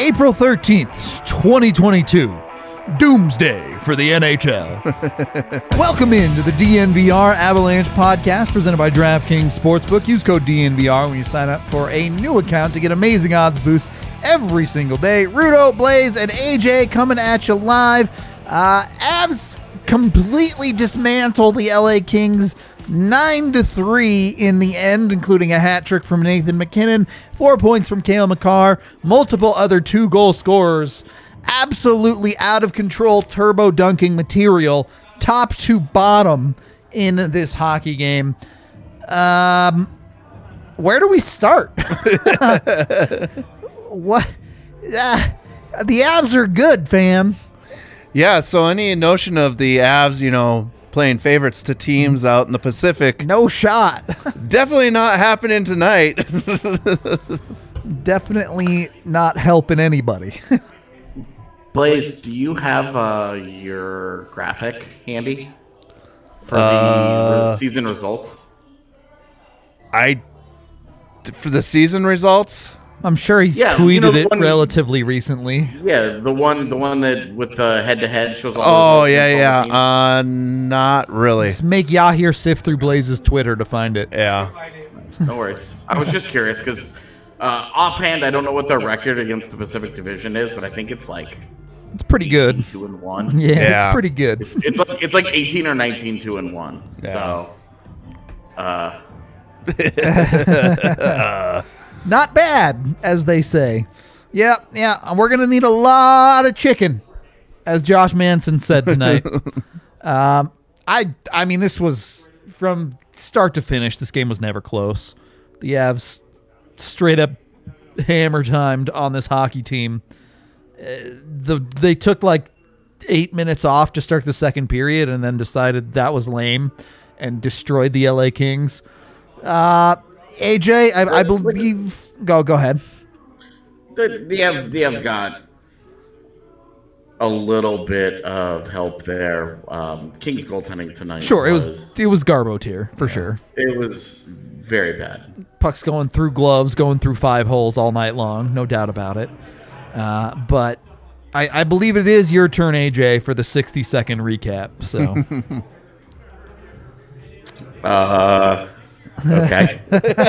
April 13th, 2022. Doomsday for the NHL. Welcome into the DNVR Avalanche podcast presented by DraftKings Sportsbook. Use code DNVR when you sign up for a new account to get amazing odds boosts every single day. Rudo, Blaze, and AJ coming at you live. Avs completely dismantle the LA Kings 9-3 in the end, including a hat trick from Nathan MacKinnon, 4 points from Cale Makar, multiple other 2-goal scorers. Absolutely out of control turbo dunking material, top to bottom in this hockey game. Where do we start? What? The Avs are good, fam. Yeah, so any notion of the Avs, playing favorites to teams out in the Pacific. No shot. Definitely not happening tonight. Definitely not helping anybody. Blaze, do you have your graphic handy for the season results? For the season results? I'm sure he's tweeted it relatively recently. Yeah, the one that with the head-to-head shows all those yeah. Not really. Just make Yahir sift through Blaze's Twitter to find it. Yeah. No worries. I was just curious because offhand, I don't know what their record against the Pacific Division is, but I think it's like it's pretty good. 2-1. Yeah, it's pretty good. It's like 18 or 19 2-1. Yeah. So, not bad, as they say. Yeah. We're gonna need a lot of chicken, as Josh Manson said tonight. I mean, this was from start to finish. This game was never close. The Avs straight up hammer timed on this hockey team. They took like 8 minutes off to start the second period and then decided that was lame and destroyed the LA Kings. AJ, I believe. Go ahead. The Avs got a little bit of help there. Kings goaltending tonight. Sure, it was Garbo tier for sure. It was very bad. Pucks going through gloves, going through 5 holes all night long, no doubt about it. But I believe it is your turn, AJ, for the 60-second recap. So, okay.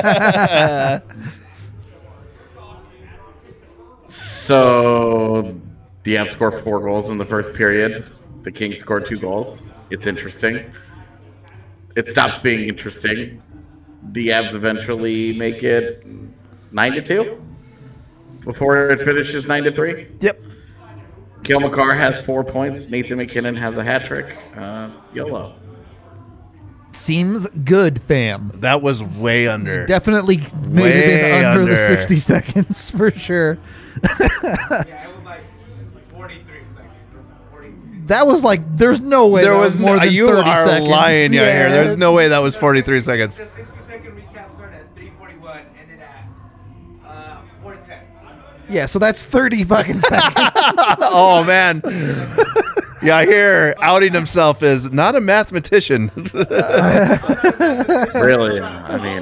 So the Avs scored 4 goals in the first period. The Kings scored 2 goals. It's interesting. It stops being interesting. The Avs eventually make it 9-2 before it finishes 9-3. Yep. Cale Makar has 4 points. Nathan MacKinnon has a hat trick. YOLO. Seems good, fam. That was way under. Definitely made it in under the 60 seconds for sure. Yeah, it was like 43 seconds. 42. That was like, there's no way there was more than 30 seconds. You are lying, here. There's no way that was 43 seconds. The 60-second recap started at 3:41, ended at 4:10. Yeah, so that's 30 fucking seconds. Oh, man. Yeah, I hear outing himself is not a mathematician. Really? I mean,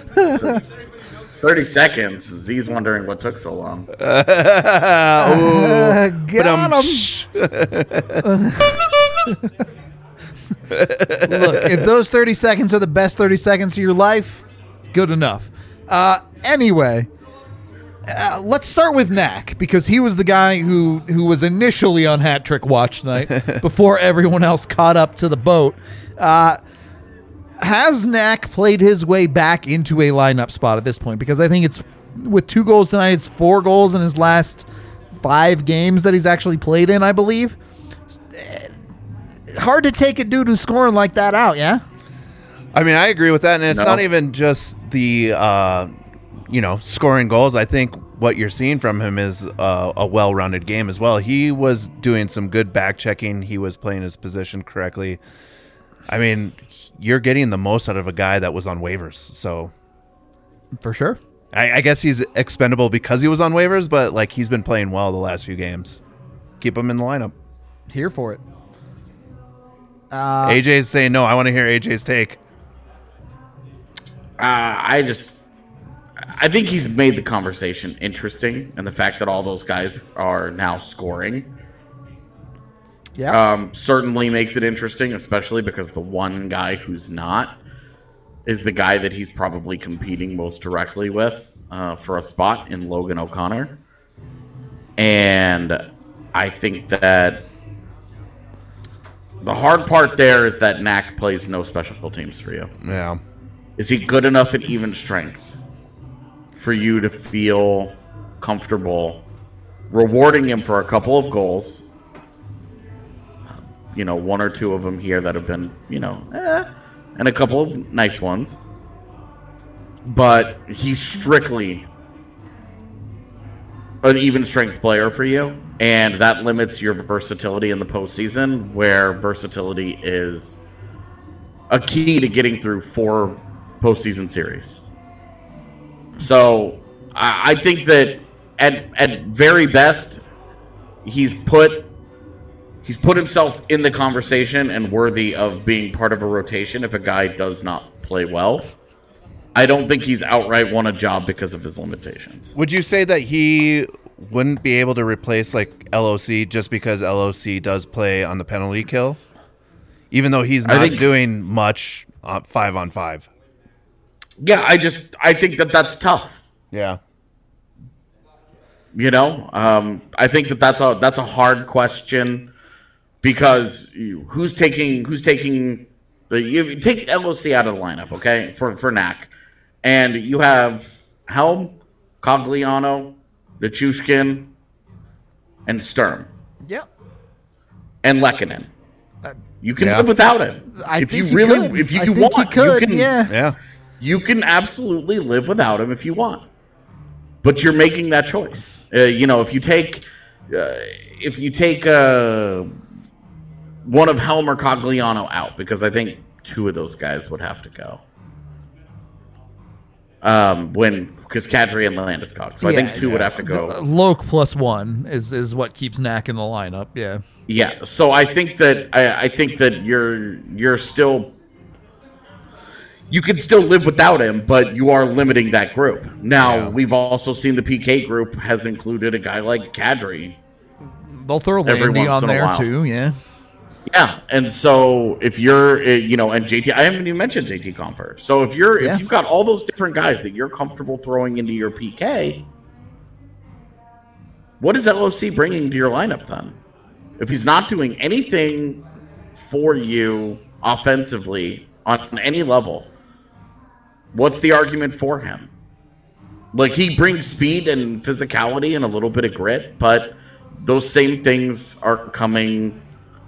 30 seconds. Z's wondering what took so long. Got him. Look, if those 30 seconds are the best 30 seconds of your life, good enough. Anyway, let's start with Knack, because he was the guy who was initially on hat trick watch tonight before everyone else caught up to the boat. Has Knack played his way back into a lineup spot at this point? Because I think it's with 2 goals tonight, it's 4 goals in his last 5 games that he's actually played in, I believe. Hard to take a dude who's scoring like that out, yeah? I mean, I agree with that, and it's not even just the scoring goals. I think what you're seeing from him is a well-rounded game as well. He was doing some good back checking. He was playing his position correctly. I mean, you're getting the most out of a guy that was on waivers. So, for sure. I guess he's expendable because he was on waivers, but like he's been playing well the last few games. Keep him in the lineup. Here for it. AJ's saying no. I want to hear AJ's take. I I think he's made the conversation interesting, and the fact that all those guys are now scoring certainly makes it interesting, especially because the one guy who's not is the guy that he's probably competing most directly with for a spot in Logan O'Connor. And I think that the hard part there is that Knack plays no special teams for you. Yeah. Is he good enough at even strength for you to feel comfortable rewarding him for a couple of goals? One or two of them here that have been, and a couple of nice ones. But he's strictly an even strength player for you, and that limits your versatility in the postseason, where versatility is a key to getting through 4 postseason series. So I think that at very best, he's put himself in the conversation and worthy of being part of a rotation if a guy does not play well. I don't think he's outright won a job because of his limitations. Would you say that he wouldn't be able to replace like LOC just because LOC does play on the penalty kill? Even though he's not doing much 5-on-5. Yeah, I think that's tough. Yeah. I think that's a hard question because who's taking you take LOC out of the lineup, okay, for Knack, and you have Helm, Cogliano, Nichushkin, and Sturm. Yeah. And Lehkonen. You can live without him. If you want, you can absolutely live without him if you want. But you're making that choice. If you take one of Helm or Cogliano out, because I think 2 of those guys would have to go. Because Kadri and Landeskog. So I think 2 would have to go. Loke +1 is what keeps Knack in the lineup. Yeah. Yeah. So I think that you're still. You can still live without him, but you are limiting that group. Now, we've also seen the PK group has included a guy like Kadri. They'll throw Landy on there too, yeah. Yeah, and so if you're, and JT, I haven't even mentioned JT Compher. So if you've got all those different guys that you're comfortable throwing into your PK, what is LOC bringing to your lineup then? If he's not doing anything for you offensively on any level, what's the argument for him? Like, he brings speed and physicality and a little bit of grit, but those same things are coming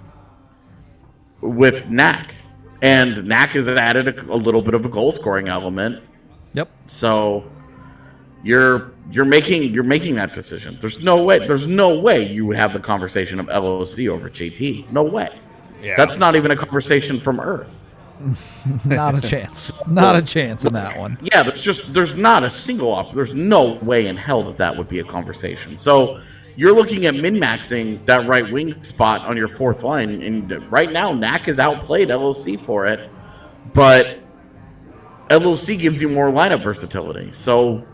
with Knack. And Knack has added a little bit of a goal-scoring element. Yep. So you're making that decision. There's no way you would have the conversation of LOC over JT. No way. Yeah. That's not even a conversation from Earth. Not a chance. Not a chance in that one. Yeah, there's not a single there's no way in hell that would be a conversation. So you're looking at min-maxing that right wing spot on your 4th line, and right now Knack has outplayed LOC for it, but LOC gives you more lineup versatility. So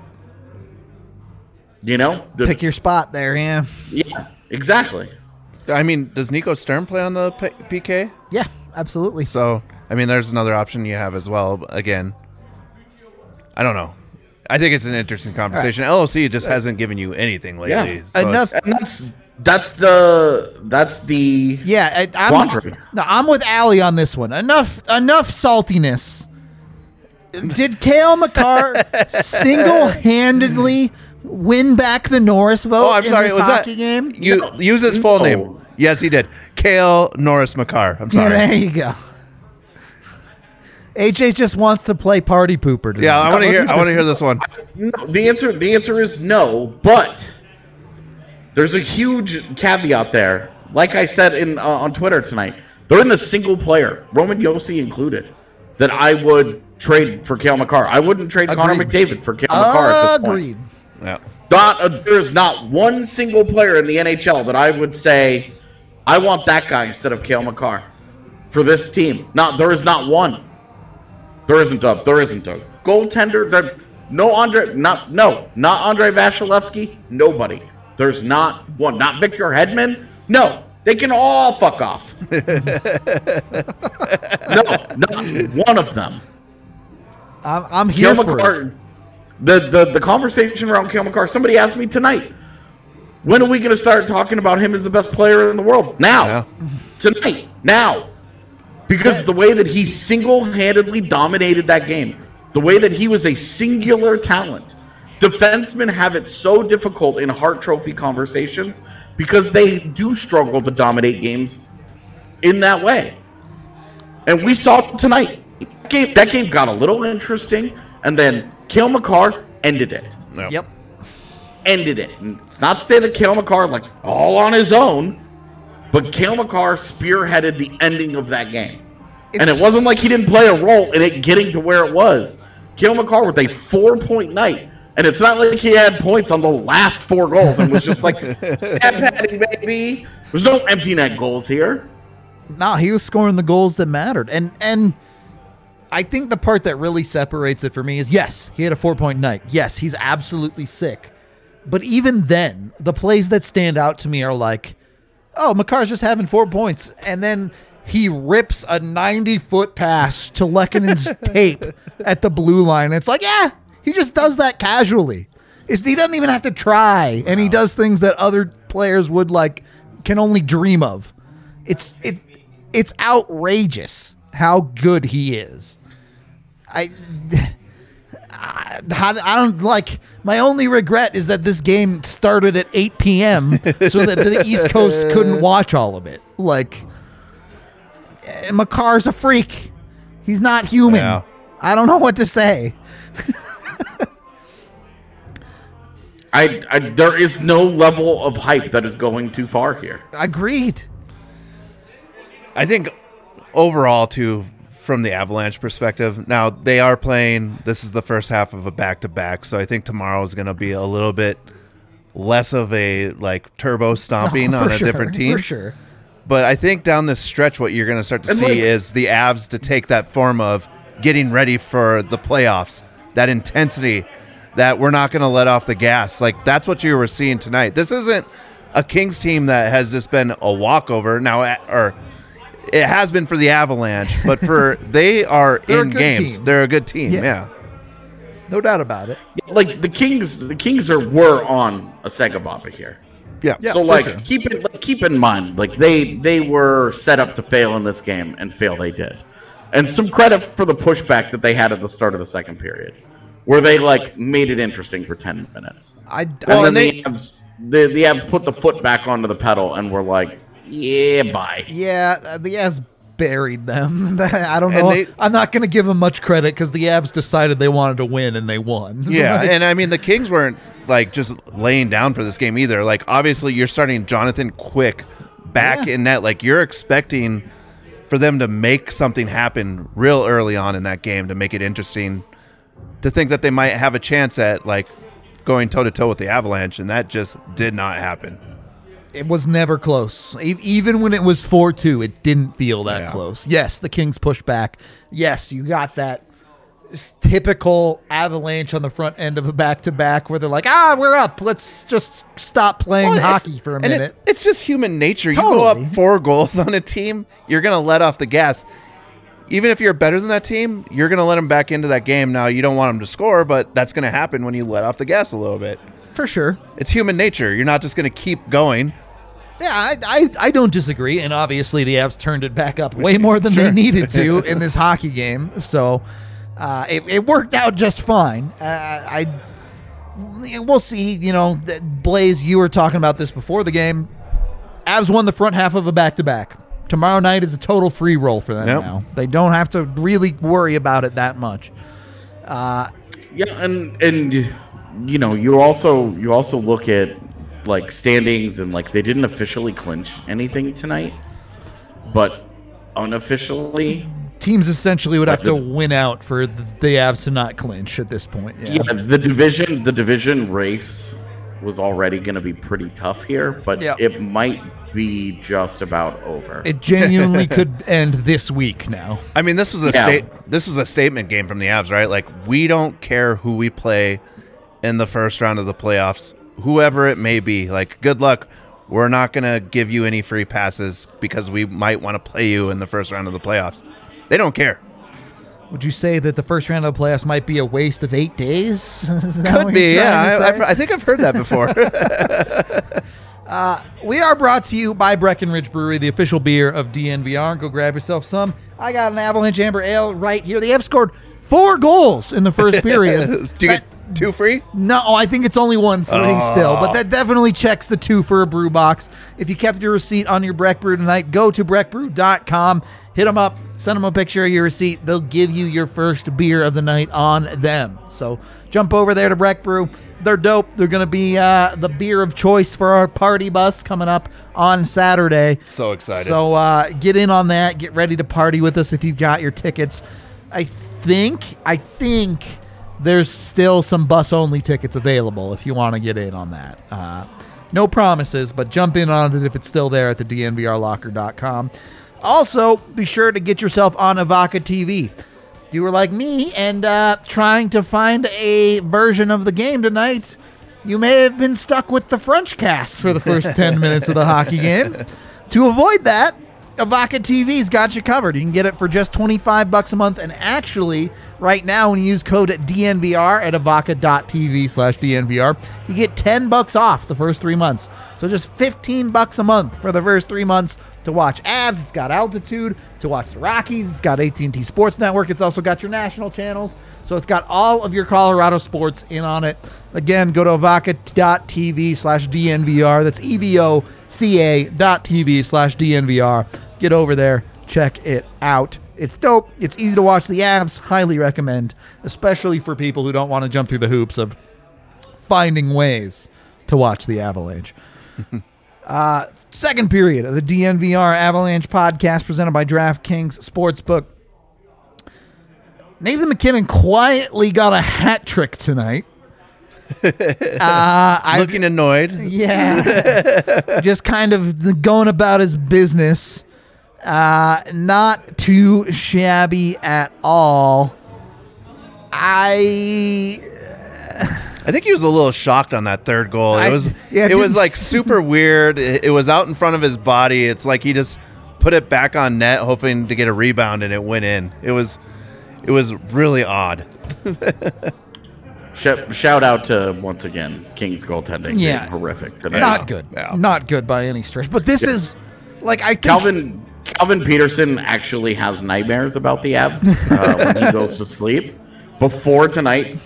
pick your spot there, yeah. Yeah, exactly. I mean, does Nico Sturm play on the PK? Yeah, absolutely. So, I mean, there's another option you have as well. Again, I don't know. I think it's an interesting conversation. Right. LOC just hasn't given you anything lately. Yeah. So enough. That's the yeah. quandary. I'm with Allie on this one. Enough saltiness. Did Cale Makar single-handedly win back the Norris vote? Oh, I'm sorry. Was that game? Use his full name. Yes, he did. Cale Norris Makar. I'm sorry. Yeah, there you go. AJ just wants to play party pooper today. Yeah, I want to hear this one. No, the answer is no, but there's a huge caveat there. Like I said on Twitter tonight, they're in a single player, Roman Josi included, that I would trade for Cale Makar. I wouldn't trade Connor McDavid for Cale Makar at this point. Agreed. Yeah. There's not one single player in the NHL that I would say, I want that guy instead of Cale Makar for this team. There is not one. There isn't a goaltender. not Andre Vasilevsky. Nobody. There's not one. Not Victor Hedman. No, they can all fuck off. No, not one of them. I'm here Cale for Makar, it. the conversation around Cale Makar. Somebody asked me tonight, when are we going to start talking about him as the best player in the world? Now, tonight, now, because the way that he single-handedly dominated that game, the way that he was a singular talent. Defensemen have it so difficult in Hart Trophy conversations because they do struggle to dominate games in that way. And we saw it tonight. That game got a little interesting, and then Cale Makar ended it. Yep. Ended it. And it's not to say that Cale Makar, like, all on his own, but Cale Makar spearheaded the ending of that game. And it wasn't like he didn't play a role in it getting to where it was. Cale Makar with a 4-point night. And it's not like he had points on the last 4 goals and was just like, stat padding, baby. There's no empty net goals here. No, he was scoring the goals that mattered. And I think the part that really separates it for me is, yes, he had a 4-point night. Yes, he's absolutely sick. But even then, the plays that stand out to me are like, oh, Makar's just having 4 points. And then he rips a 90-foot pass to Lekkonen's tape at the blue line. It's like, yeah, he just does that casually. He doesn't even have to try. And he does things that other players would can only dream of. It's outrageous how good he is. I don't like. My only regret is that this game started at 8 p.m. so that the East Coast couldn't watch all of it. Makar's a freak. He's not human. Yeah. I don't know what to say. There is no level of hype that is going too far here. Agreed. I think overall, too, from the Avalanche perspective, now they are playing, this is the first half of a back-to-back, so I think tomorrow is going to be a little bit less of a turbo stomping on a different team. For sure. But I think down this stretch, what you're going to start to see is the Avs to take that form of getting ready for the playoffs, that intensity that we're not going to let off the gas. That's what you were seeing tonight. This isn't a Kings team that has just been a walkover now, or it has been for the Avalanche, but they are in games. Team. They're a good team, yeah. No doubt about it. The Kings were on a Segababa here. Yeah. So sure. keep in mind, they were set up to fail in this game, and fail they did. And some credit for the pushback that they had at the start of the second period, where they made it interesting for 10 minutes. The Avs put the foot back onto the pedal and were like, yeah, bye. Yeah, the Avs buried them. I don't know. I'm not going to give them much credit because the Avs decided they wanted to win and they won. Yeah, and I mean the Kings weren't just laying down for this game either. Obviously you're starting Jonathan Quick back in net. You're expecting for them to make something happen real early on in that game to make it interesting, to think that they might have a chance at going toe-to-toe with the Avalanche, and that just did not happen. It was never close. Even when it was 4-2, it didn't feel that close. Yes, the Kings pushed back. Yes, you got that typical Avalanche on the front end of a back-to-back where they're like, we're up. Let's just stop playing hockey for a minute. It's just human nature. Totally. You go up 4 goals on a team, you're going to let off the gas. Even if you're better than that team, you're going to let them back into that game. Now, you don't want them to score, but that's going to happen when you let off the gas a little bit. For sure. It's human nature. You're not just going to keep going. Yeah, I don't disagree. And obviously the Avs turned it back up way more than they needed to in this hockey game. So it worked out just fine. We'll see. Blaze, you were talking about this before the game. Avs won the front half of a back-to-back. Tomorrow night is a total free roll for them now. They don't have to really worry about it that much. And you also look at standings, and they didn't officially clinch anything tonight, but unofficially teams essentially would have to win out for the Avs to not clinch at this point. The division race was already going to be pretty tough here, but it might be just about over. It genuinely could end this week now. I mean, this was a statement game from the Avs, right? Like, we don't care who we play in the first round of the playoffs, whoever it may be. Like, good luck. We're not going to give you any free passes because we might want to play you in the first round of the playoffs. They don't care. Would you say that the first round of the playoffs might be a waste of 8 days? Could be, yeah. I think I've heard that before. We are brought to you by Breckenridge Brewery, the official beer of DNVR. Go grab yourself some. I got an Avalanche Amber Ale right here. They have scored 4 goals in the first period. Do you get 2 free? No, I think it's only 1 free still, but that definitely checks the 2 for a brew box. If you kept your receipt on your Breck Brew tonight, go to breckbrew.com, hit them up, send them a picture of your receipt. They'll give you your first beer of the night on them. So jump over there to Breck Brew. They're dope. They're going to be the beer of choice for our party bus coming up on Saturday. So excited. So get in on that. Get ready to party with us if you've got your tickets. I think there's still some bus-only tickets available if you want to get in on that. No promises, but jump in on it if it's still there at the DNVRlocker.com. Also, be sure to get yourself on Avaca TV. If you were like me and trying to find a version of the game tonight, you may have been stuck with the French cast for the first 10 minutes of the hockey game. To avoid that, Avaca TV's got you covered. You can get it for just $25 a month, and actually, right now, when you use code DNVR at avaca.tv/DNVR, you get $10 off the first 3 months. So just $15 a month for the first 3 months to watch Avs. It's got Altitude. To watch the Rockies, it's got AT&T Sports Network. It's also got your national channels. So it's got all of your Colorado sports in on it. Again, go to avaca.tv/DNVR. That's EVOCA.tv/DNVR. Get over there. Check it out. It's dope. It's easy to watch the Avs. Highly recommend, especially for people who don't want to jump through the hoops of finding ways to watch the Avalanche. Second period of the DNVR Avalanche podcast presented by DraftKings Sportsbook. Nathan MacKinnon quietly got a hat trick tonight. Looking annoyed. Yeah. Just kind of going about his business. Not too shabby at all. I think he was a little shocked on that third goal. It was like super weird. It was out in front of his body. It's like he just put it back on net, hoping to get a rebound, and it went in. It was really odd. Shout out to, once again, King's goaltending being horrific today. Not good. Yeah. Not good by any stretch. But this is like, I think Calvin Peterson actually has nightmares about the Avs when he goes to sleep. Before tonight,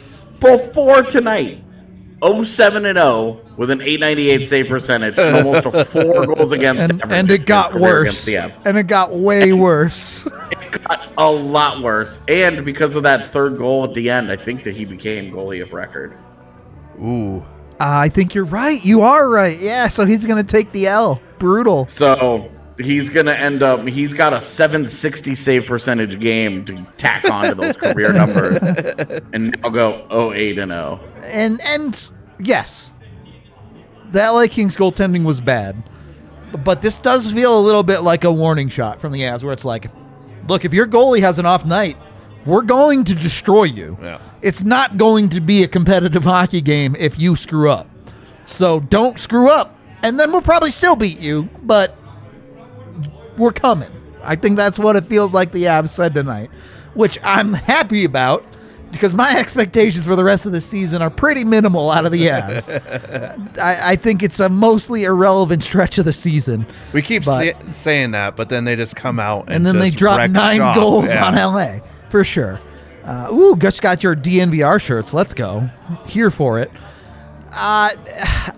0-7-0 with an .898 save percentage and almost a 4 goals against average. And it got worse. And it got way worse. It got a lot worse. And because of that third goal at the end, I think that he became goalie of record. Ooh. I think you're right. You are right. Yeah, so he's going to take the L. Brutal. So he's going to end up, he's got a .760 save percentage game to tack onto those career numbers. And I'll go 0-8-0. And yes, the LA Kings goaltending was bad. But this does feel a little bit like a warning shot from the Avs where it's like, look, if your goalie has an off night, we're going to destroy you. Yeah. It's not going to be a competitive hockey game if you screw up. So don't screw up. And then we'll probably still beat you, but we're coming. I think that's what it feels like the Avs said tonight, which I'm happy about because my expectations for the rest of the season are pretty minimal out of the Avs. I think it's a mostly irrelevant stretch of the season. We keep saying that, but then they just come out and then they drop 9 goals on LA, for sure. Just got your DNVR shirts. Let's go. Here for it. I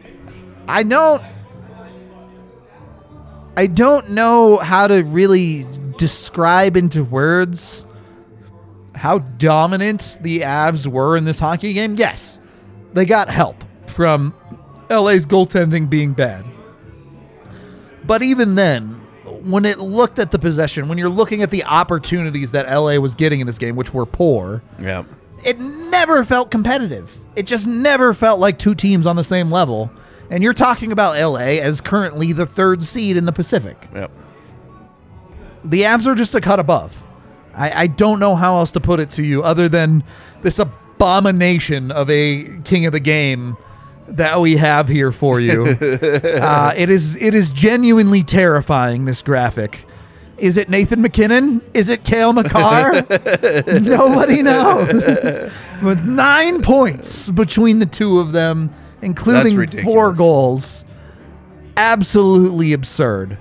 don't know how to really describe into words how dominant the Avs were in this hockey game. Yes, they got help from LA's goaltending being bad. But even then, when it looked at the possession, when you're looking at the opportunities that LA was getting in this game, which were poor, yeah, it never felt competitive. It just never felt like two teams on the same level. And you're talking about LA as currently the 3rd seed in the Pacific. Yep. The Avs are just a cut above. I don't know how else to put it to you other than this abomination of a king of the game that we have here for you. It is genuinely terrifying, this graphic. Is it Nathan McKinnon? Is it Cale Makar? Nobody knows. With 9 points between the two of them, including 4 goals. Absolutely absurd.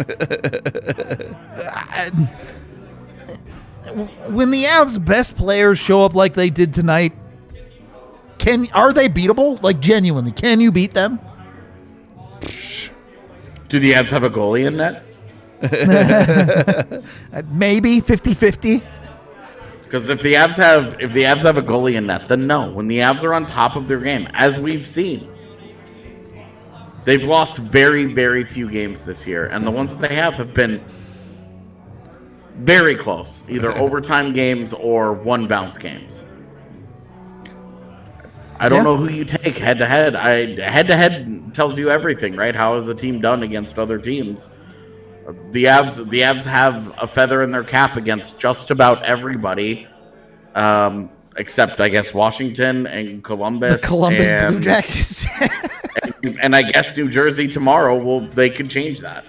When the Avs' best players show up like they did tonight, are they beatable? Like, genuinely, can you beat them? Do the Avs have a goalie in net? Maybe 50-50. Because if the Avs have a goalie in net, then no. When the Avs are on top of their game, as we've seen, they've lost very, very few games this year, and the ones that they have been very close, either overtime games or one bounce games. I don't know who you take head to head. Head to head tells you everything, right? How has a team done against other teams? The Avs have a feather in their cap against just about everybody, except I guess Washington and Columbus. The Columbus Blue Jackets. and I guess New Jersey tomorrow. They could change that.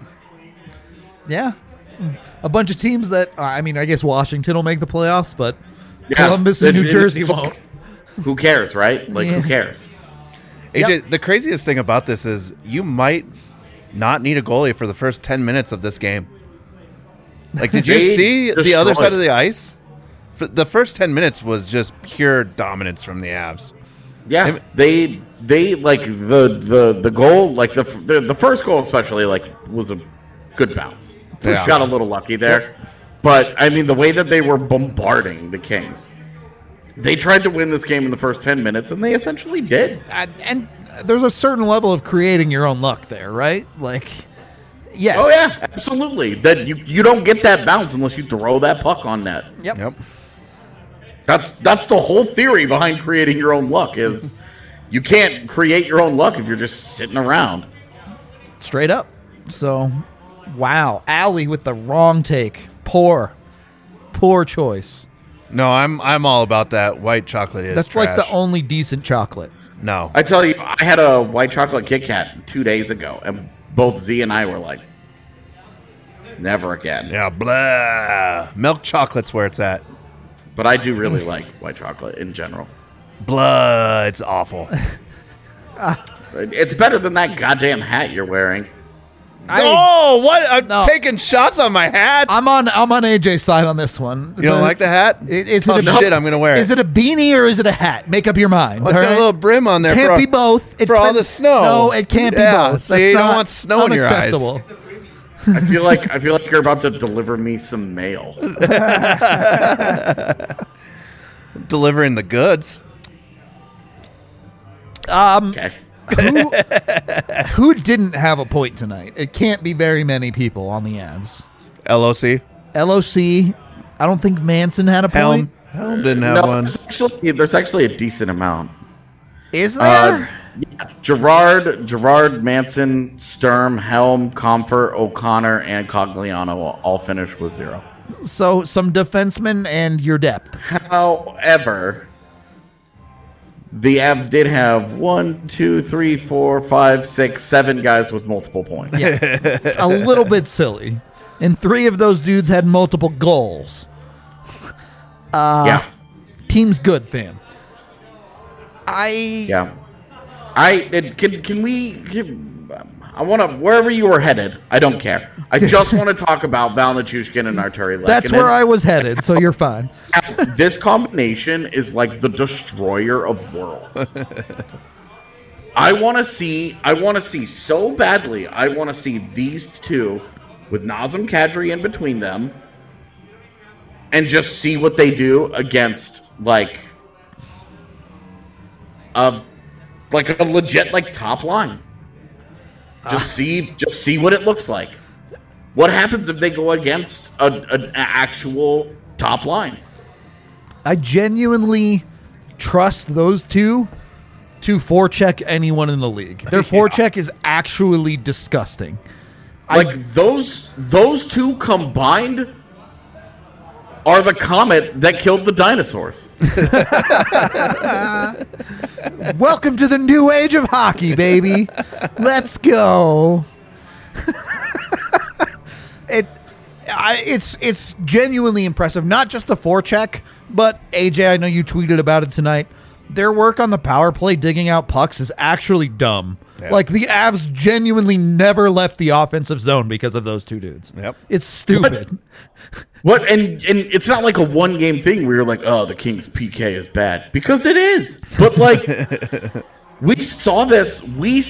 Yeah. A bunch of teams that I guess Washington will make the playoffs, but Columbus and New Jersey won't. Who cares, right? Like, who cares? AJ, the craziest thing about this is you might not need a goalie for the first 10 minutes of this game. Like, did you see the other side of the ice? For the first 10 minutes was just pure dominance from the Avs. Yeah, they like the goal, like the first goal especially, like, was a good bounce. Got a little lucky there. But, I mean, the way that they were bombarding the Kings, they tried to win this game in the first 10 minutes, and they essentially did. And there's a certain level of creating your own luck there, right? Like, yes. Oh, yeah, absolutely. That you don't get that bounce unless you throw that puck on net. Yep. That's the whole theory behind creating your own luck is you can't create your own luck if you're just sitting around. Straight up. So, wow. Allie with the wrong take. Poor choice. No, I'm all about that. White chocolate is That's trash. like the only decent chocolate. No. I tell you, I had a white chocolate Kit Kat 2 days ago, and both Z and I were like, never again. Yeah, blah. Milk chocolate's where it's at. But I do really like white chocolate in general. Blah. It's awful. It's better than that goddamn hat you're wearing. What? I'm taking shots on my hat. I'm on AJ's side on this one. You don't like the hat? Shit, I'm going to wear it. Is it a beanie or is it a hat? Make up your mind. Well, it's got a little brim on there. Can't be both. For all the snow. No, it can't be both. So you don't want snow in your eyes. I feel like you're about to deliver me some mail. Delivering the goods. Okay. Who didn't have a point tonight? It can't be very many people on the Avs. LOC. I don't think Manson had a point. Helm didn't have one. There's actually a decent amount. Is there? Yeah, Gerard, Manson, Sturm, Helm, Comfort, O'Connor, and Cogliano all finished with 0. So some defensemen and your depth. However, the Avs did have 1, 2, 3, 4, 5, 6, 7 guys with multiple points. Yeah. A little bit silly. And 3 of those dudes had multiple goals. Team's good, fam. I want to, wherever you were headed, I don't care. I just want to talk about Val Nichushkin and Arturi Lehkonen. That's where I was headed, so you're fine. This combination is like the destroyer of worlds. I want to see so badly, I want to see these two with Nazem Kadri in between them and just see what they do against like a legit like top line. Just see what it looks like. What happens if they go against an actual top line? I genuinely trust those two to forecheck anyone in the league. Their forecheck is actually disgusting. Like those two combined are the comet that killed the dinosaurs. Welcome to the new age of hockey, baby. Let's go. It's genuinely impressive. Not just the forecheck, but AJ, I know you tweeted about it tonight. Their work on the power play digging out pucks is actually dumb. Yeah. Like, the Avs genuinely never left the offensive zone because of those two dudes. Yep. It's stupid. What? And it's not like a one-game thing where you're like, oh, the Kings' PK is bad. Because it is. But, like, we saw this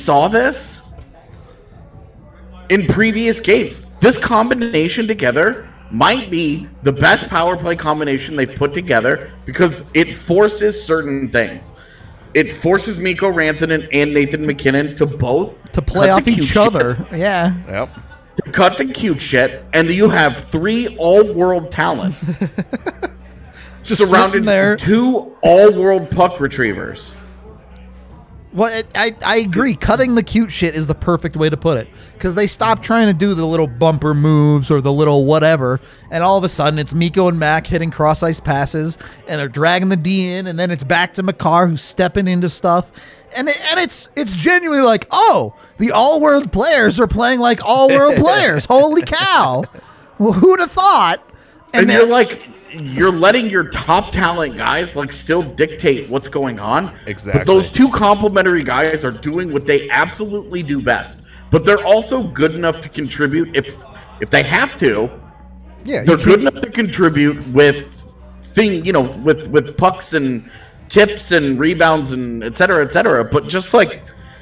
in previous games. This combination together might be the best power play combination they've put together because it forces certain things. It forces Mikko Rantanen and Nathan MacKinnon to both to play off each other. Yeah. Yep. To cut the cute shit, and you have 3 all-world talents surrounded by 2 all-world puck retrievers. Well, I agree. Cutting the cute shit is the perfect way to put it, because they stopped trying to do the little bumper moves or the little whatever, and all of a sudden it's Mikko and Mac hitting cross-ice passes, and they're dragging the D in, and then it's back to Makar who's stepping into stuff, and it's genuinely like, oh, the all-world players are playing like all-world players. Holy cow. Well, who'd have thought? And you're like, you're letting your top talent guys like still dictate what's going on. Exactly. But those 2 complementary guys are doing what they absolutely do best. But they're also good enough to contribute if they have to. Yeah, they're good enough to contribute with with pucks and tips and rebounds and et cetera, et cetera. But just like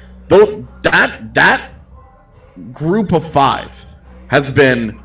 that group of 5 has been.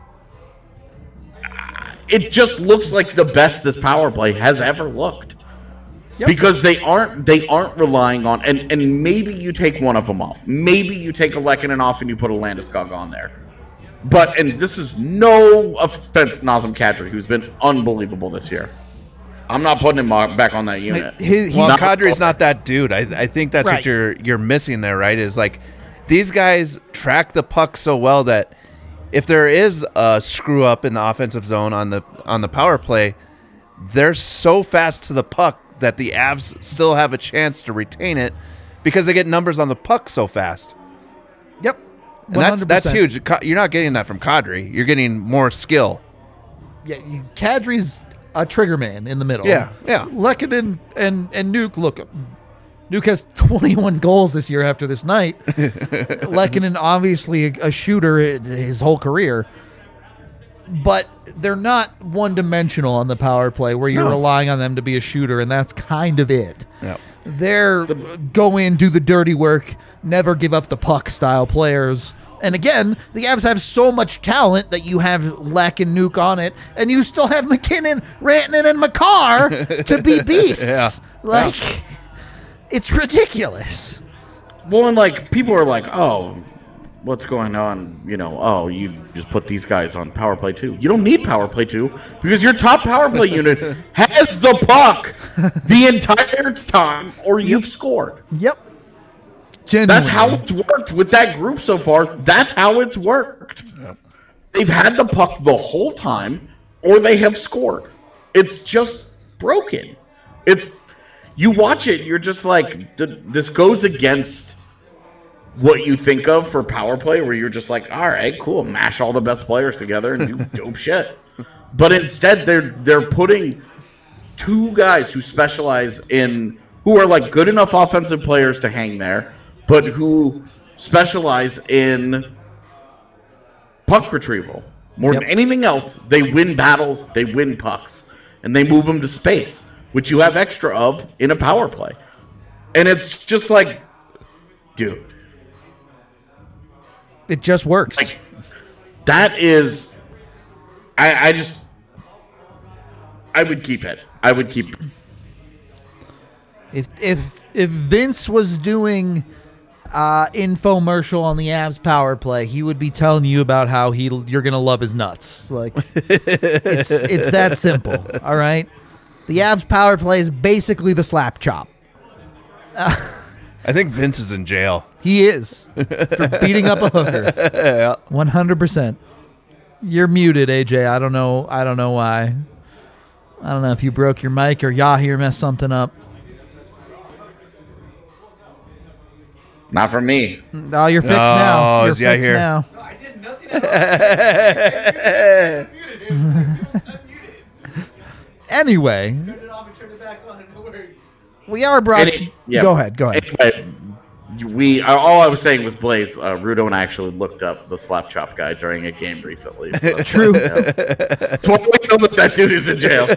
It just looks like the best this power play has ever looked. Yep. Because they aren't relying on and maybe you take one of them off. Maybe you take a Lehkonen off and you put a Landeskog on there. And this is no offense to Nazem Kadri, who's been unbelievable this year. I'm not putting him back on that unit. Kadri's not that dude. I think that's right. What you're missing there, right? Is like these guys track the puck so well that if there is a screw up in the offensive zone on the power play, they're so fast to the puck that the Avs still have a chance to retain it because they get numbers on the puck so fast. Yep. 100%. And that's huge. You're not getting that from Kadri. You're getting more skill. Yeah, Kadri's a trigger man in the middle. Yeah. Lehkonen and Nuke, look, Nuke has 21 goals this year after this night. Lehkonen, obviously a shooter his whole career. But they're not one-dimensional on the power play where you're relying on them to be a shooter, and that's kind of it. Yep. They're go in, do the dirty work, never give up the puck style players. And again, the Avs have so much talent that you have Lek and Nuke on it, and you still have MacKinnon, Rantanen, and Makar to be beasts. It's ridiculous. Well, and like people are like, oh, what's going on? You just put these guys on power play 2. You don't need power play 2 because your top power play unit has the puck the entire time or you've scored. Yep. Genuinely. That's how it's worked with that group so far. That's how it's worked. Yep. They've had the puck the whole time or they have scored. It's just broken. You watch it, you're just like, this goes against what you think of for power play, where you're just like, all right, cool, mash all the best players together and do dope shit. But instead, they're putting 2 guys who specialize who are like good enough offensive players to hang there, but who specialize in puck retrieval. More than anything else, they win battles, they win pucks, and they move them to space, which you have extra of in a power play. And it's just like, dude. It just works. Like, that is... I would keep it. I would keep it. If Vince was doing infomercial on the Avs power play, he would be telling you about how you're going to love his nuts. Like, it's that simple, all right? The Avs power play is basically the slap chop. I think Vince is in jail. He is for beating up a hooker. 100%. You're muted, AJ. I don't know why. I don't know if you broke your mic or Yahir messed something up. Not for me. Oh, you're fixed now. You're is Yahir. fixed now. No, I did nothing at all. Anyway, Turn it off and turn it back on. No worries. we are brought. Go ahead. Anyway, all I was saying was Blaze. Rudo and I actually looked up the slap chop guy during a game recently. So True. That's why we know that dude is in jail.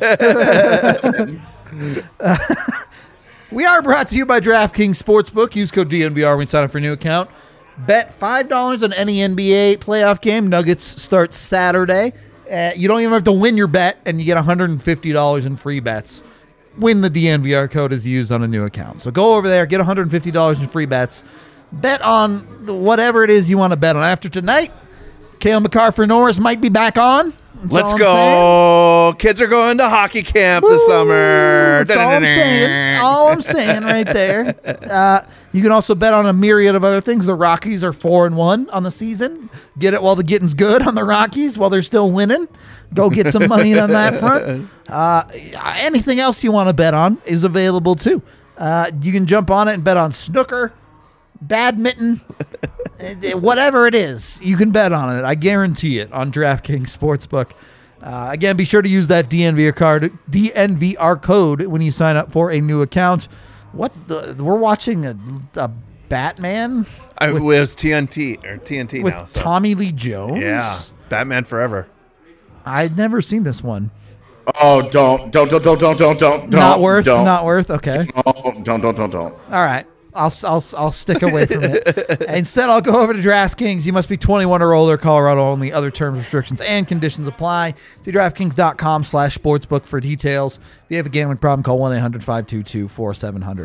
We are brought to you by DraftKings Sportsbook. Use code DNVR when you sign up for a new account. Bet $5 on any NBA playoff game. Nuggets start Saturday. You don't even have to win your bet, and you get $150 in free bets when the DNVR code is used on a new account. So go over there, get $150 in free bets. Bet on whatever it is you want to bet on. After tonight, Cale McCarthy-Norris might be back on. That's Let's all I'm go. Kids are going to hockey camp this summer. That's all I'm saying. All I'm saying right there. You can also bet on a myriad of other things. The Rockies are 4-1 on the season. Get it while the getting's good on the Rockies while they're still winning. Go get some money on that front. Anything else you want to bet on is available too. You can jump on it and bet on snooker, badminton, whatever it is. You can bet on it. I guarantee it on DraftKings Sportsbook. Again, be sure to use that DNVR code when you sign up for a new account. We're watching a Batman. It was TNT with now. So. Tommy Lee Jones. Yeah, Batman Forever. I'd never seen this one. Oh, don't. Not worth. Okay. Oh, don't. All right. I'll stick away from it. Instead, I'll go over to DraftKings. You must be 21 or older, Colorado only. Other terms, restrictions, and conditions apply. See DraftKings.com/sportsbook for details. If you have a gambling problem, call 1-800-522-4700.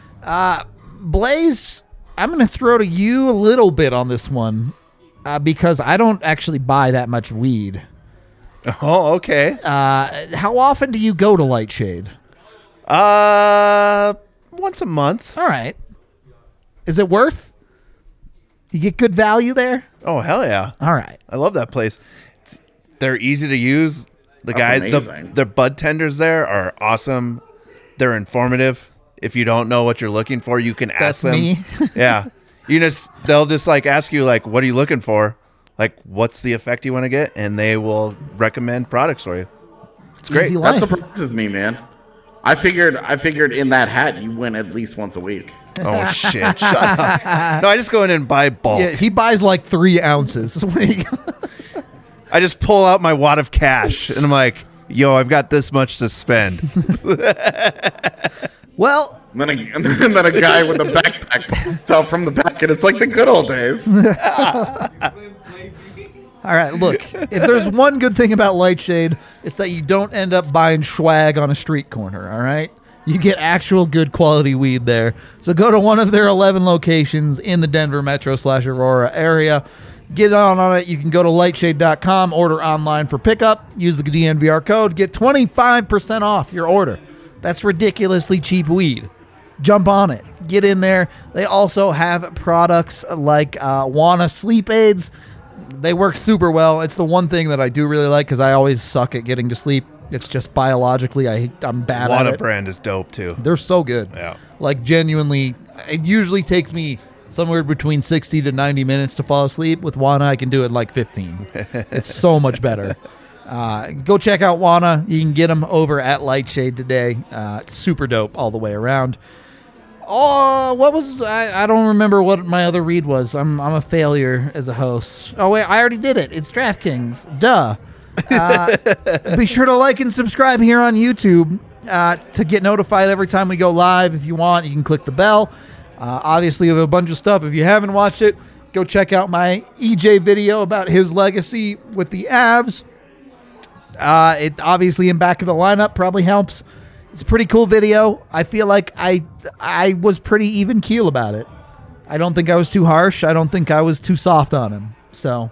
Blaze, I'm going to throw to you a little bit on this one because I don't actually buy that much weed. Oh, okay. How often do you go to Lightshade? Once a month. All right. Is it worth? You get good value there? Oh, hell yeah. All right. I love that place. They're easy to use. The That's guys, amazing. the bud tenders there are awesome. They're informative. If you don't know what you're looking for, you can ask them. Me. Yeah. They'll just like ask you like, what are you looking for? Like, what's the effect you want to get? And they will recommend products for you. It's great. Easy That life. surprises me, man. I figured in that hat you win at least once a week. Oh, shit. Shut up. No, I just go in and buy bulk. Yeah, he buys like 3 ounces. I just pull out my wad of cash and I'm like, yo, I've got this much to spend. Well, And then a guy with a backpack pops out from the back, and it's like the good old days. all right, look, if there's one good thing about Lightshade, it's that you don't end up buying swag on a street corner, all right? You get actual good quality weed there. So go to one of their 11 locations in the Denver metro/Aurora area. Get on it. You can go to lightshade.com, order online for pickup, use the DNVR code, get 25% off your order. That's ridiculously cheap weed. Jump on it. Get in there. They also have products like Wana sleep aids. They work super well. It's the one thing that I do really like because I always suck at getting to sleep. It's just biologically, I'm bad at Wana it. brand is dope too. They're so good. Yeah. Like genuinely, it usually takes me somewhere between 60 to 90 minutes to fall asleep. With Wana, I can do it in like 15. It's so much better. Go check out Wana. You can get them over at Lightshade today. It's super dope all the way around. Oh, what was I don't remember what my other read was. I'm a failure as a host. Oh wait, I already did it. It's DraftKings. Duh. Be sure to like and subscribe here on YouTube to get notified every time we go live. If you want, you can click the bell. Obviously, we have a bunch of stuff. If you haven't watched it, go check out my EJ video about his legacy with the Avs. It obviously in back of the lineup probably helps. It's a pretty cool video. I feel like I was pretty even keel about it. I don't think I was too harsh. I don't think I was too soft on him. So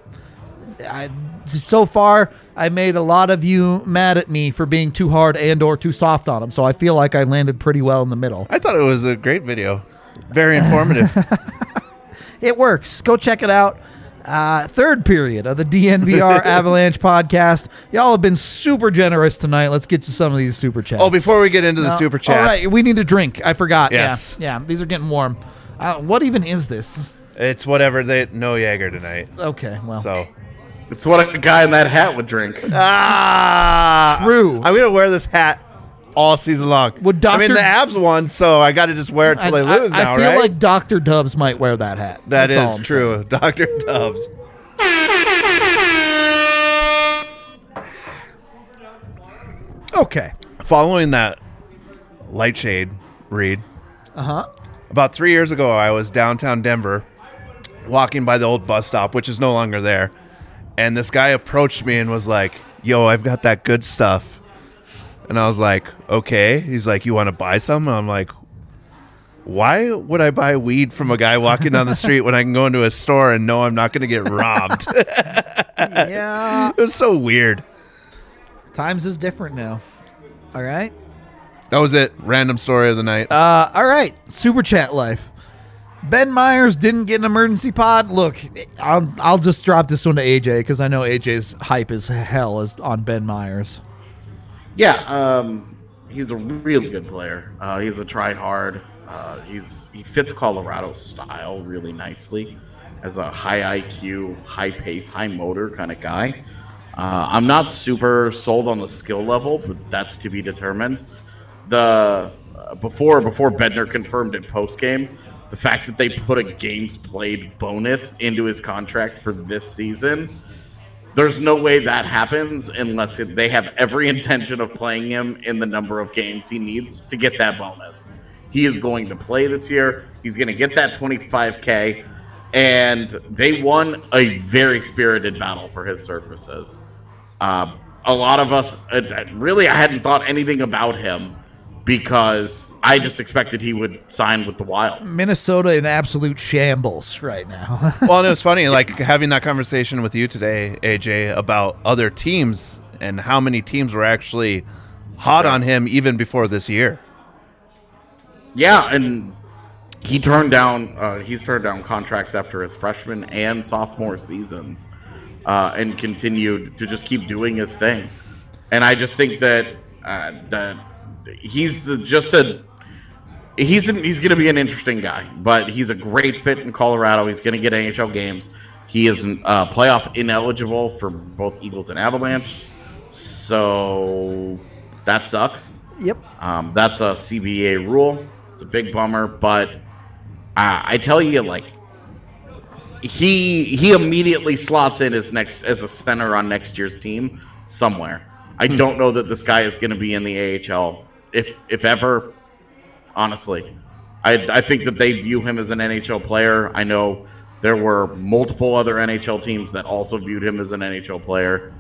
far, I made a lot of you mad at me for being too hard and or too soft on him. So I feel like I landed pretty well in the middle. I thought it was a great video. Very informative. It works. Go check it out. Third period of the DNVR Avalanche podcast. Y'all have been super generous tonight. Let's get to some of these super chats. Oh, before we get into the super chats. All right, we need a drink. I forgot. Yes. Yeah, these are getting warm. What even is this? It's whatever. No Jaeger tonight. Okay, well. So. It's what a guy in that hat would drink. True. I'm going to wear this hat all season long. Would I mean, the Avs won, so I got to just wear it till they lose now, right? I feel like Dr. Dubs might wear that hat. That is true. Dr. Dubs. Okay. Following that light shade read, Uh-huh. about 3 years ago, I was downtown Denver walking by the old bus stop, which is no longer there. And this guy approached me and was like, yo, I've got that good stuff. And I was like, okay. He's like, you want to buy some? And I'm like, why would I buy weed from a guy walking down the street when I can go into a store and know I'm not going to get robbed? Yeah. It was so weird. Times is different now. All right. That was it. Random story of the night. All right. Super chat life. Ben Myers didn't get an emergency pod. Look, I'll just drop this one to AJ because I know AJ's hype as hell is on Ben Myers. Yeah, he's a really good player. He's a try-hard. He fits Colorado's style really nicely as a high IQ, high pace, high motor kind of guy. I'm not super sold on the skill level, but that's to be determined. Before Bednar confirmed it post game, the fact that they put a games played bonus into his contract for this season, there's no way that happens unless they have every intention of playing him in the number of games he needs to get that bonus. He is going to play this year. He's going to get that $25K, and they won a very spirited battle for his services. A lot of us, really, I hadn't thought anything about him because I just expected he would sign with the Wild. Minnesota in absolute shambles right now. Well, and it was funny, like having that conversation with you today, AJ, about other teams and how many teams were actually hot on him even before this year. Yeah, and he's turned down contracts after his freshman and sophomore seasons, and continued to just keep doing his thing. And I just think that he's going to be an interesting guy, but he's a great fit in Colorado. He's going to get NHL games. He is playoff ineligible for both Eagles and Avalanche, so that sucks. Yep. That's a CBA rule. It's a big bummer, but I tell you, like, he immediately slots in as a center on next year's team somewhere. I don't know that this guy is going to be in the AHL, if ever. Honestly, I think that they view him as an NHL player. I know there were multiple other NHL teams that also viewed him as an NHL player.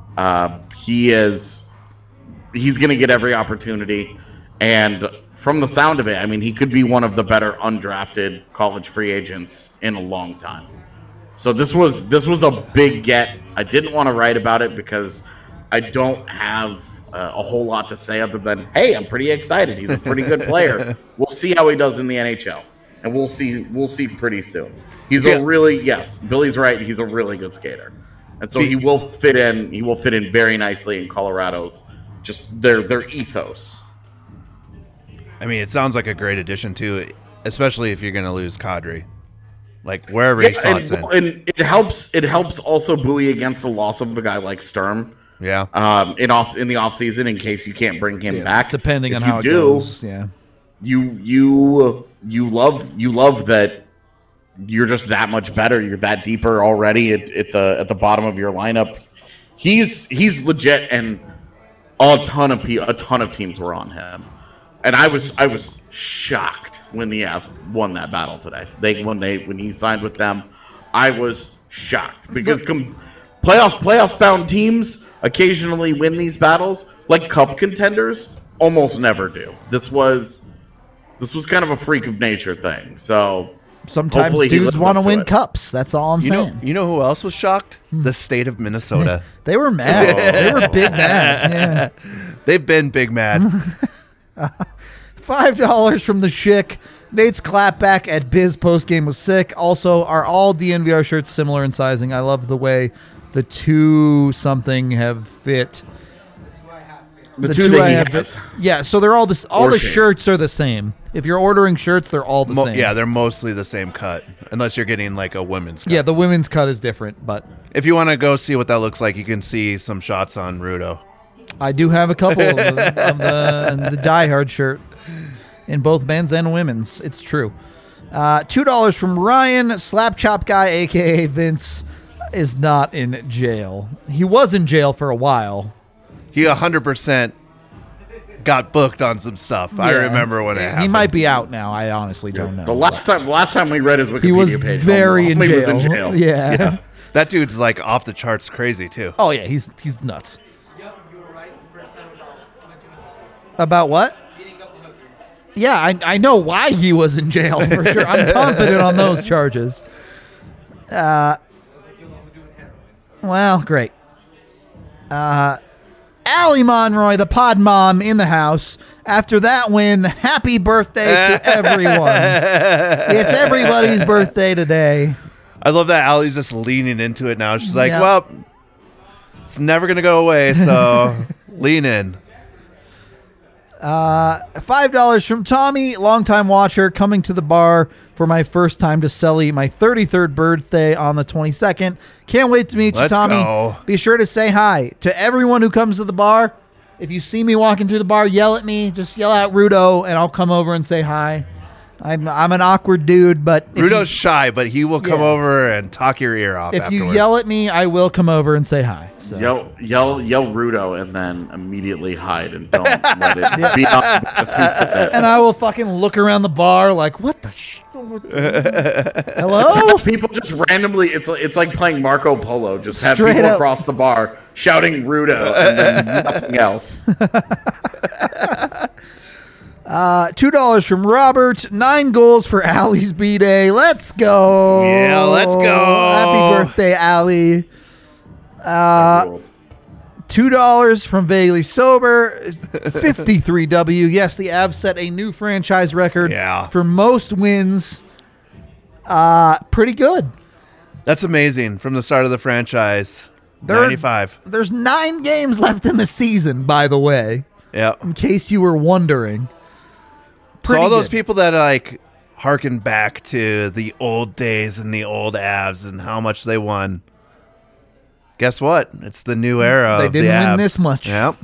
He's going to get every opportunity, and from the sound of it, I mean, he could be one of the better undrafted college free agents in a long time. So this was a big get. I didn't want to write about it because I don't have a whole lot to say other than, hey, I'm pretty excited. He's a pretty good player. We'll see how he does in the NHL, and we'll see pretty soon. He's Billy's right. He's a really good skater, and so he will fit in. He will fit in very nicely in Colorado's just their ethos. I mean, it sounds like a great addition too, especially if you're going to lose Kadri. Like wherever he slots in, and it helps also buoy against the loss of a guy like Sturm. Yeah. In the off season, in case you can't bring him back, depending on how it goes. Yeah. You love that you're just that much better. You're that deeper already at the bottom of your lineup. He's legit, and a ton of teams were on him, and I was shocked when the Avs won that battle today. When he signed with them, I was shocked because playoff bound teams occasionally win these battles, like cup contenders almost never do. This was kind of a freak of nature thing. So sometimes dudes want to win cups. That's all I'm saying. You know who else was shocked? The state of Minnesota. They were mad. They were big mad. Yeah. They've been big mad. $5 from the Schick. Nate's clapback at Biz postgame was sick. Also, are all DNVR shirts similar in sizing? I love the way the two something have fit. The two that he has. Yeah, so they're all this. All Or the shape. shirts are the same. If you're ordering shirts, they're all the same. Yeah, they're mostly the same cut, unless you're getting like a women's cut. Yeah, the women's cut is different, but If you want to go see what that looks like, you can see some shots on Rudo. I do have a couple of the Die Hard shirt in both men's and women's. It's true. $2 from Ryan. Slap Chop Guy, a.k.a. Vince, is not in jail. He was in jail for a while. He 100% got booked on some stuff. I Yeah. remember when it happened. He might be out now. I honestly don't know. The last time we read his Wikipedia he was page, very in he jail. was in jail. Yeah. That dude's like off the charts crazy too. Oh, yeah. He's nuts. Yep, you were right the first time mentioning About what? beating up the hooker. Yeah, I know why he was in jail for sure. I'm confident on those charges. Well, great. Allie Monroy, the pod mom in the house. After that win, happy birthday to everyone. It's everybody's birthday today. I love that Allie's just leaning into it now. She's like, Yeah. well, it's never going to go away, so lean in. $5 from Tommy, longtime watcher, coming to the bar for my first time to Sully, my 33rd birthday on the 22nd. Can't wait to meet Let's you, Tommy. go. Be sure to say hi to everyone who comes to the bar. If you see me walking through the bar, yell at me. Just yell out Rudo, and I'll come over and say hi. I'm an awkward dude, but Rudo's shy, but he will come Yeah. over and talk your ear off if afterwards. you yell at me, I will come over and say hi. So. Yell Rudo and then immediately hide and don't let it be obvious who said it. And I will fucking look around the bar like, what the Hello? People just randomly, it's like playing Marco Polo. Just have Straight people up. across the bar shouting Rudo and then nothing else. $2 from Robert. 9 goals for Allie's B-Day. Let's go. Yeah, let's go. Happy birthday, Allie. $2 from Vaguely Sober. 53W. Yes, the Avs set a new franchise record Yeah. for most wins. Pretty good. That's amazing. From the start of the franchise, They're- 95. There's 9 games left in the season, by the way, Yeah. in case you were wondering. So all those good. people that like harken back to the old days and the old Avs and how much they won. Guess what? It's the new era. They of didn't the win Avs. this much. Yep.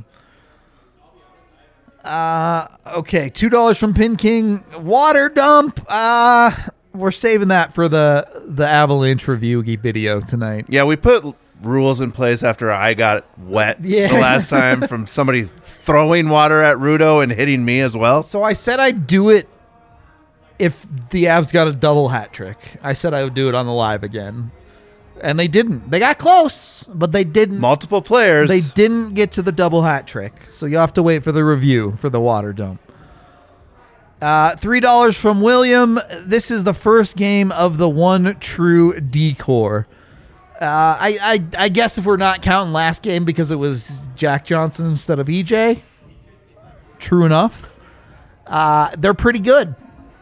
Okay, $2 from Pin King. Water dump. We're saving that for the Avalanche review video tonight. Yeah, we put rules in place after I got wet Yeah. the last time from somebody throwing water at Rudo and hitting me as well. So I said I'd do it if the Avs got a double hat trick. I said I would do it on the live again. And they didn't. They got close, but they didn't. Multiple players. They didn't get to the double hat trick. So you have to wait for the review for the water dump. $3 from William. This is the first game of the one true decor. I guess if we're not counting last game because it was Jack Johnson instead of EJ. True enough. They're pretty good.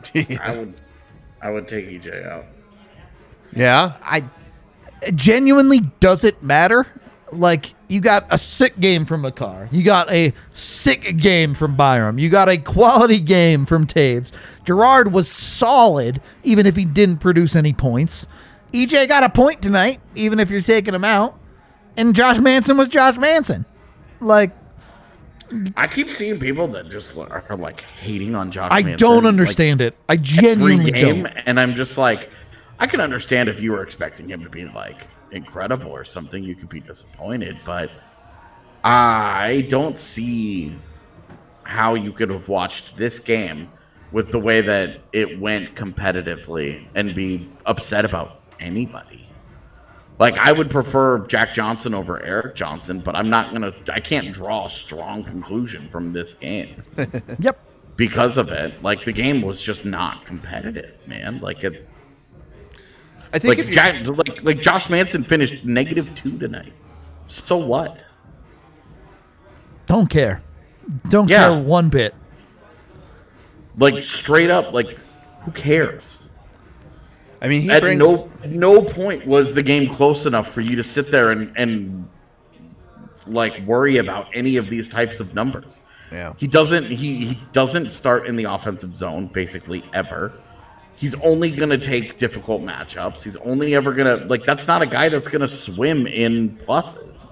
I would take EJ out. Yeah. Genuinely, does it matter? Like, you got a sick game from Makar. You got a sick game from Byram. You got a quality game from Taves. Gerard was solid, even if he didn't produce any points. EJ got a point tonight, even if you're taking him out. And Josh Manson was Josh Manson. Like, I keep seeing people that just are like hating on Josh I Manson. don't understand it. I Every genuinely game, don't. and I'm just like, I can understand if you were expecting him to be like incredible or something, you could be disappointed, but I don't see how you could have watched this game with the way that it went competitively and be upset about anybody. Like, I would prefer Jack Johnson over Eric Johnson, but I can't draw a strong conclusion from this game Yep. because of it. Like, the game was just not competitive, man. Like, I think like, if you, like Josh Manson finished -2 tonight. So what? Don't care. Don't Yeah. care one bit. Like, straight up, like, Who cares? I mean, he At brings no point was the game close enough for you to sit there and like worry about any of these types of numbers. Yeah. He doesn't start in the offensive zone basically ever. He's only going to take difficult matchups. He's only ever going to like that's not a guy that's going to swim in pluses.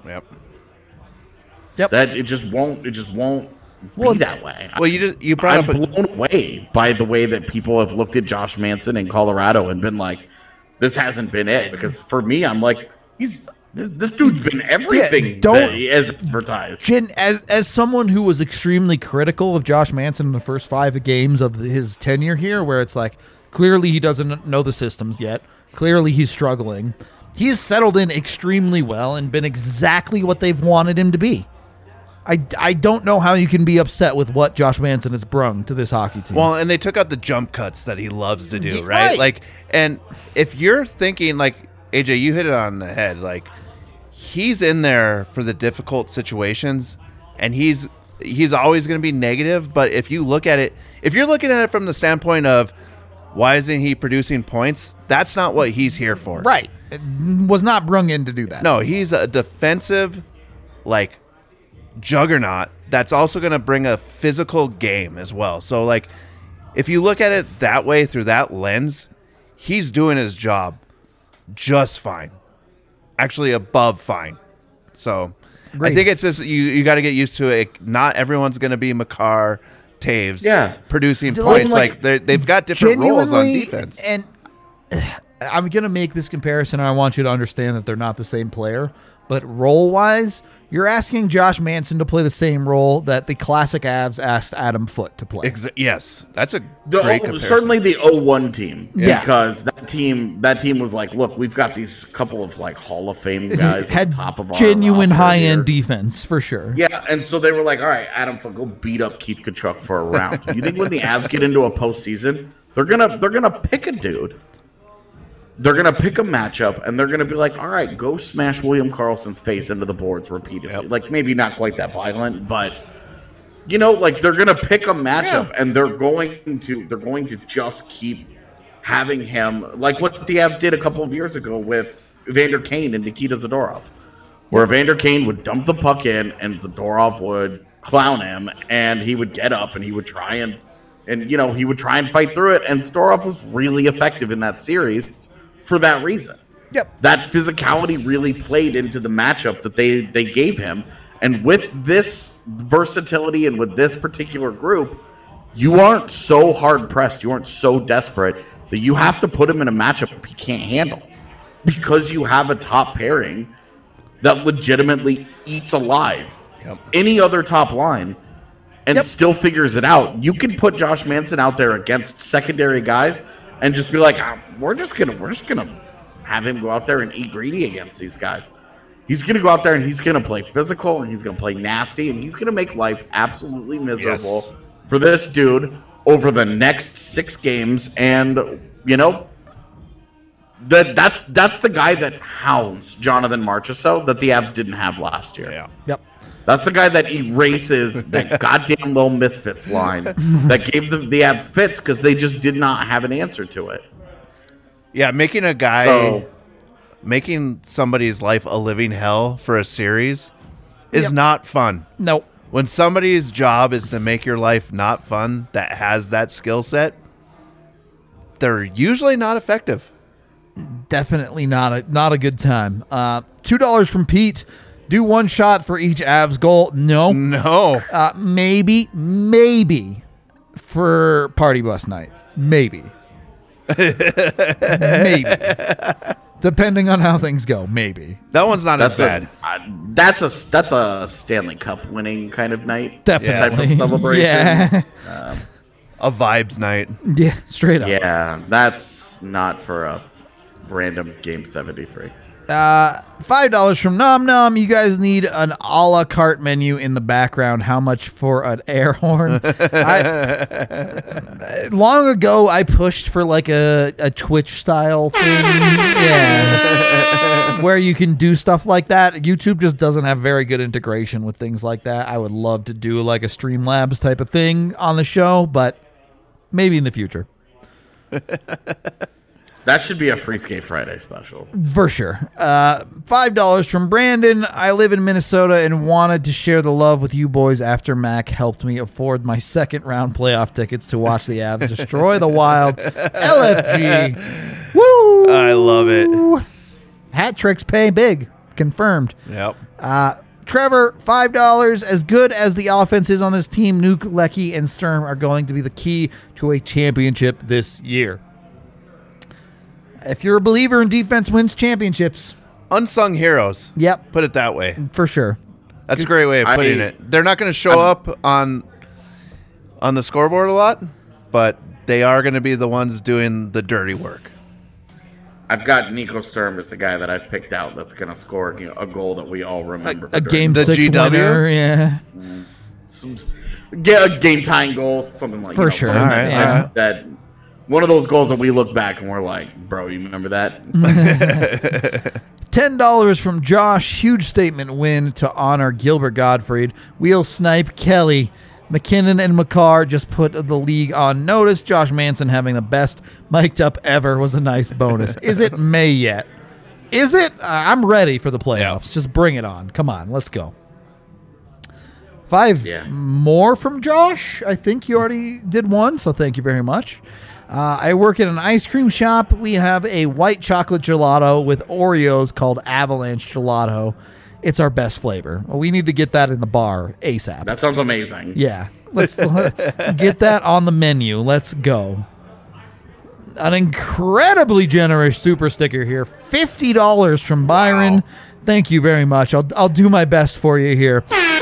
Yep. That it just won't be that way. Well, you brought I'm up blown away by the way that people have looked at Josh Manson in Colorado and been like, this hasn't been it. Because for me, I'm like, this dude's been everything that he has advertised. Jen, as someone who was extremely critical of Josh Manson in the first 5 games of his tenure here, where it's like, clearly he doesn't know the systems yet. Clearly he's struggling. He's settled in extremely well and been exactly what they've wanted him to be. I don't know how you can be upset with what Josh Manson has brung to this hockey team. Well, and they took out the jump cuts that he loves to do, Right. right? Like, and if you're thinking, like, AJ, you hit it on the head, like, he's in there for the difficult situations, and he's always going to be negative, but if you look at it, if you're looking at it from the standpoint of why isn't he producing points, that's not what he's here for. right. It was not brung in to do that. No, he's a defensive, like, juggernaut that's also going to bring a physical game as well. So, like, if you look at it that way through that lens, he's doing his job just fine. Actually, above fine. So, Agreed. I think it's just you got to get used to it. Not everyone's going to be Makar, Taves, producing points. Like they've got different roles on defense. And I'm going to make this comparison, and I want you to understand that they're not the same player. But role-wise, you're asking Josh Manson to play the same role that the classic Avs asked Adam Foote to play. Yes, that's a great comparison. Certainly the 0-1 team. Yeah. Because that team was like, look, we've got these couple of like Hall of Fame guys Had at the top of our genuine roster high-end here. defense, for sure. Yeah, and so they were like, all right, Adam Foote, go beat up Keith Tkachuk for a round. You think when the Avs get into a postseason, they're gonna pick a dude. They're going to pick a matchup, and they're going to be like, all right, go smash William Karlsson's face into the boards repeatedly. Yep. Like, maybe not quite that violent, but, you know, like, they're going to pick a matchup, and they're going to just keep having him, like what the Avs did a couple of years ago with Evander Kane and Nikita Zadorov, where Evander Kane would dump the puck in, and Zadorov would clown him, and he would get up, and he would try and you know, he would try and fight through it, and Zadorov was really effective in that series for that reason. Yep. That physicality really played into the matchup that they gave him. And with this versatility and with this particular group, you aren't so hard-pressed, you aren't so desperate that you have to put him in a matchup he can't handle. Because you have a top pairing that legitimately eats alive any other top line and still figures it out. You can put Josh Manson out there against secondary guys and just be like, we're just gonna have him go out there and eat greedy against these guys. He's gonna go out there and he's gonna play physical and he's gonna play nasty and he's gonna make life absolutely miserable for this dude over the next 6 games. And you know, that's the guy that hounds Jonathan Marchessault that the Avs didn't have last year. Yeah. Yep. That's the guy that erases that goddamn little misfits line that gave the Avs fits because they just did not have an answer to it. Yeah, making somebody's life a living hell for a series is not fun. Nope. When somebody's job is to make your life not fun that has that skill set, they're usually not effective. Definitely not a good time. $2 from Pete. Do one shot for each Avs goal. No. Maybe for party bus night. Maybe. Depending on how things go. Maybe. That one's not as bad. That's a Stanley Cup winning kind of night. Definitely. Type of celebration. Yeah. A vibes night. Yeah, straight up. Yeah, that's not for a random game 73. $5 from Nom Nom. You guys need an a la carte menu in the background. How much for an air horn? Long ago, I pushed for like a Twitch style thing. Yeah. Where you can do stuff like that. YouTube just doesn't have very good integration with things like that. I would love to do like a Streamlabs type of thing on the show, but maybe in the future. That should be a Free Skate Friday special. For sure. $5 from Brandon. I live in Minnesota and wanted to share the love with you boys after Mac helped me afford my second round playoff tickets to watch the Avs destroy the Wild. LFG. Woo! I love it. Hat tricks pay big. Confirmed. Yep. Trevor, $5. As good as the offense is on this team, Nuke, Lecky, and Sturm are going to be the key to a championship this year. If you're a believer in defense wins championships. Unsung heroes. Yep. Put it that way. For sure. That's a great way of putting it. They're not going to show up on the scoreboard a lot, but they are going to be the ones doing the dirty work. I've got Nico Sturm as the guy that I've picked out that's going to score a goal that we all remember. A game the 6 GW? winner, yeah. Get a game-tying goal, something like For sure. Something All right, like that. One of those goals that we look back and we're like, bro, you remember that? $10 from Josh. Huge statement win to honor Gilbert Gottfried. Wheel Snipe Kelly. McKinnon and McCarr just put the league on notice. Josh Manson having the best mic'd up ever was a nice bonus. Is it May yet? Is it? I'm ready for the playoffs. Just bring it on. Come on, let's go. 5 more from Josh. I think you already did one, so thank you very much. I work at an ice cream shop. We have a white chocolate gelato with Oreos called Avalanche Gelato. It's our best flavor. We need to get that in the bar ASAP. That sounds amazing. Yeah. Let's get that on the menu. Let's go. An incredibly generous super sticker here. $50 from Byron. Wow. Thank you very much. I'll do my best for you here.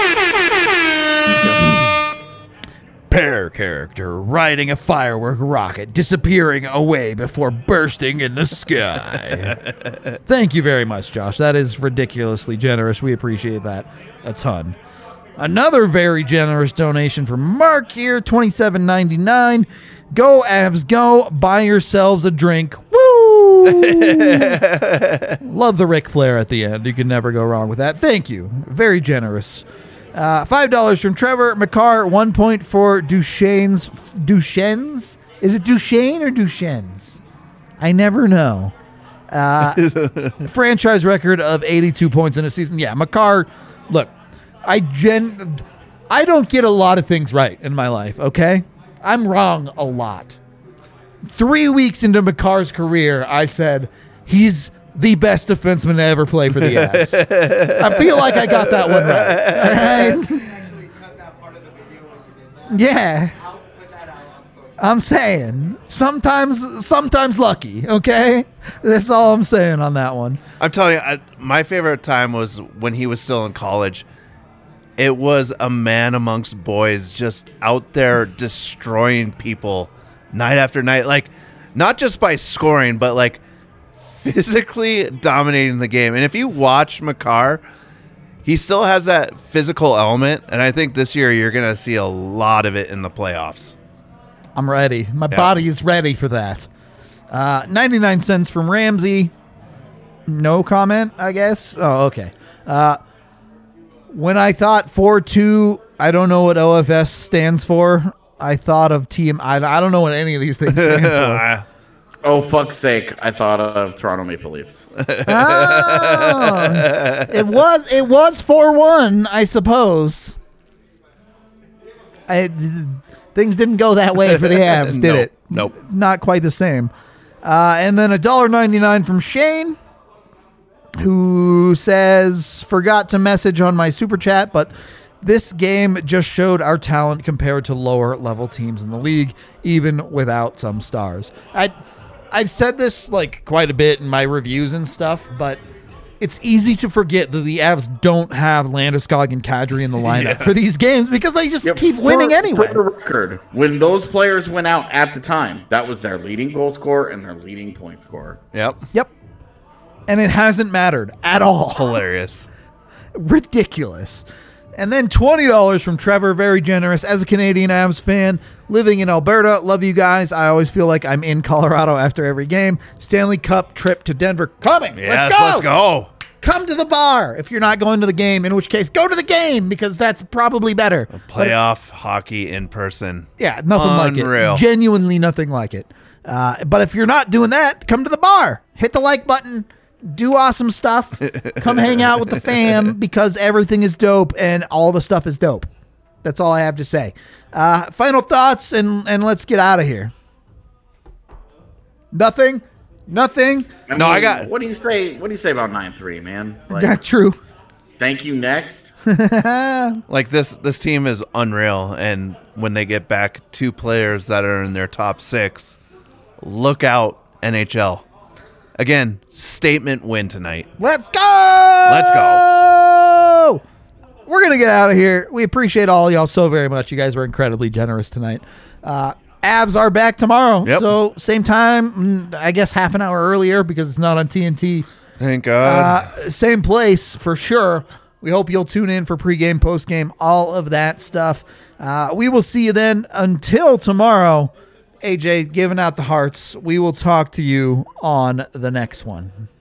Pair character riding a firework rocket, disappearing away before bursting in the sky. Thank you very much, Josh. That is ridiculously generous. We appreciate that a ton. Another very generous donation from Mark here, $27.99. Go Avs, go! Buy yourselves a drink. Woo! Love the Ric Flair at the end. You can never go wrong with that. Thank you. Very generous. $5 from Trevor McCarr. 1 point for Duchesne's. Is it Duchesne or Duchesne's? I never know. Franchise record of 82 points in a season. Yeah, McCarr. Look, I don't get a lot of things right in my life. Okay, I'm wrong a lot. 3 weeks into McCarr's career, I said he's the best defenseman to ever play for the Avs. I feel like I got that one right. Actually cut that part of the video when you did that. Yeah. I'll put that out on social. I'm saying sometimes lucky, okay? That's all I'm saying on that one. I'm telling you, my favorite time was when he was still in college. It was a man amongst boys just out there destroying people night after night. Like, not just by scoring, but like physically dominating the game. And if you watch McCarr, he still has that physical element. And I think this year you're going to see a lot of it in the playoffs. I'm ready. My body is ready for that. 99 cents from Ramsey. No comment, I guess. Oh, okay. When I thought 4-2, I don't know what OFS stands for. I thought of team. I don't know what any of these things stand for. Oh, fuck's sake. I thought of Toronto Maple Leafs. It was 4-1, I suppose. Things didn't go that way for the Avs, did it? Nope. Not quite the same. And then $1.99 from Shane, who says, forgot to message on my super chat, but this game just showed our talent compared to lower level teams in the league, even without some stars. I've said this like quite a bit in my reviews and stuff, but it's easy to forget that the Avs don't have Landeskog and Kadri in the lineup for these games because they just keep winning anyway. For the record, when those players went out at the time, that was their leading goal scorer and their leading point scorer. Yep. And it hasn't mattered at all. Hilarious. Ridiculous. And then $20 from Trevor, very generous. As a Canadian Avs fan, living in Alberta, love you guys. I always feel like I'm in Colorado after every game. Stanley Cup trip to Denver coming. Yes, let's go. Come to the bar if you're not going to the game, in which case go to the game because that's probably better. Playoff hockey in person. Yeah, nothing like it. Genuinely nothing like it. But if you're not doing that, come to the bar. Hit the like button. Do awesome stuff. Come hang out with the fam because everything is dope and all the stuff is dope. That's all I have to say. Final thoughts and let's get out of here. Nothing. I got. What do you say? What do you say about 9-3, man? Not true. Thank you. Next. Like this team is unreal, and when they get back 2 players that are in their top 6, look out, NHL. Again, statement win tonight. Let's go. Let's go. We're going to get out of here. We appreciate all y'all so very much. You guys were incredibly generous tonight. Avs are back tomorrow. Yep. So same time, I guess half an hour earlier because it's not on TNT. Thank God. Same place for sure. We hope you'll tune in for pregame, postgame, all of that stuff. We will see you then. Until tomorrow, AJ giving out the hearts. We will talk to you on the next one.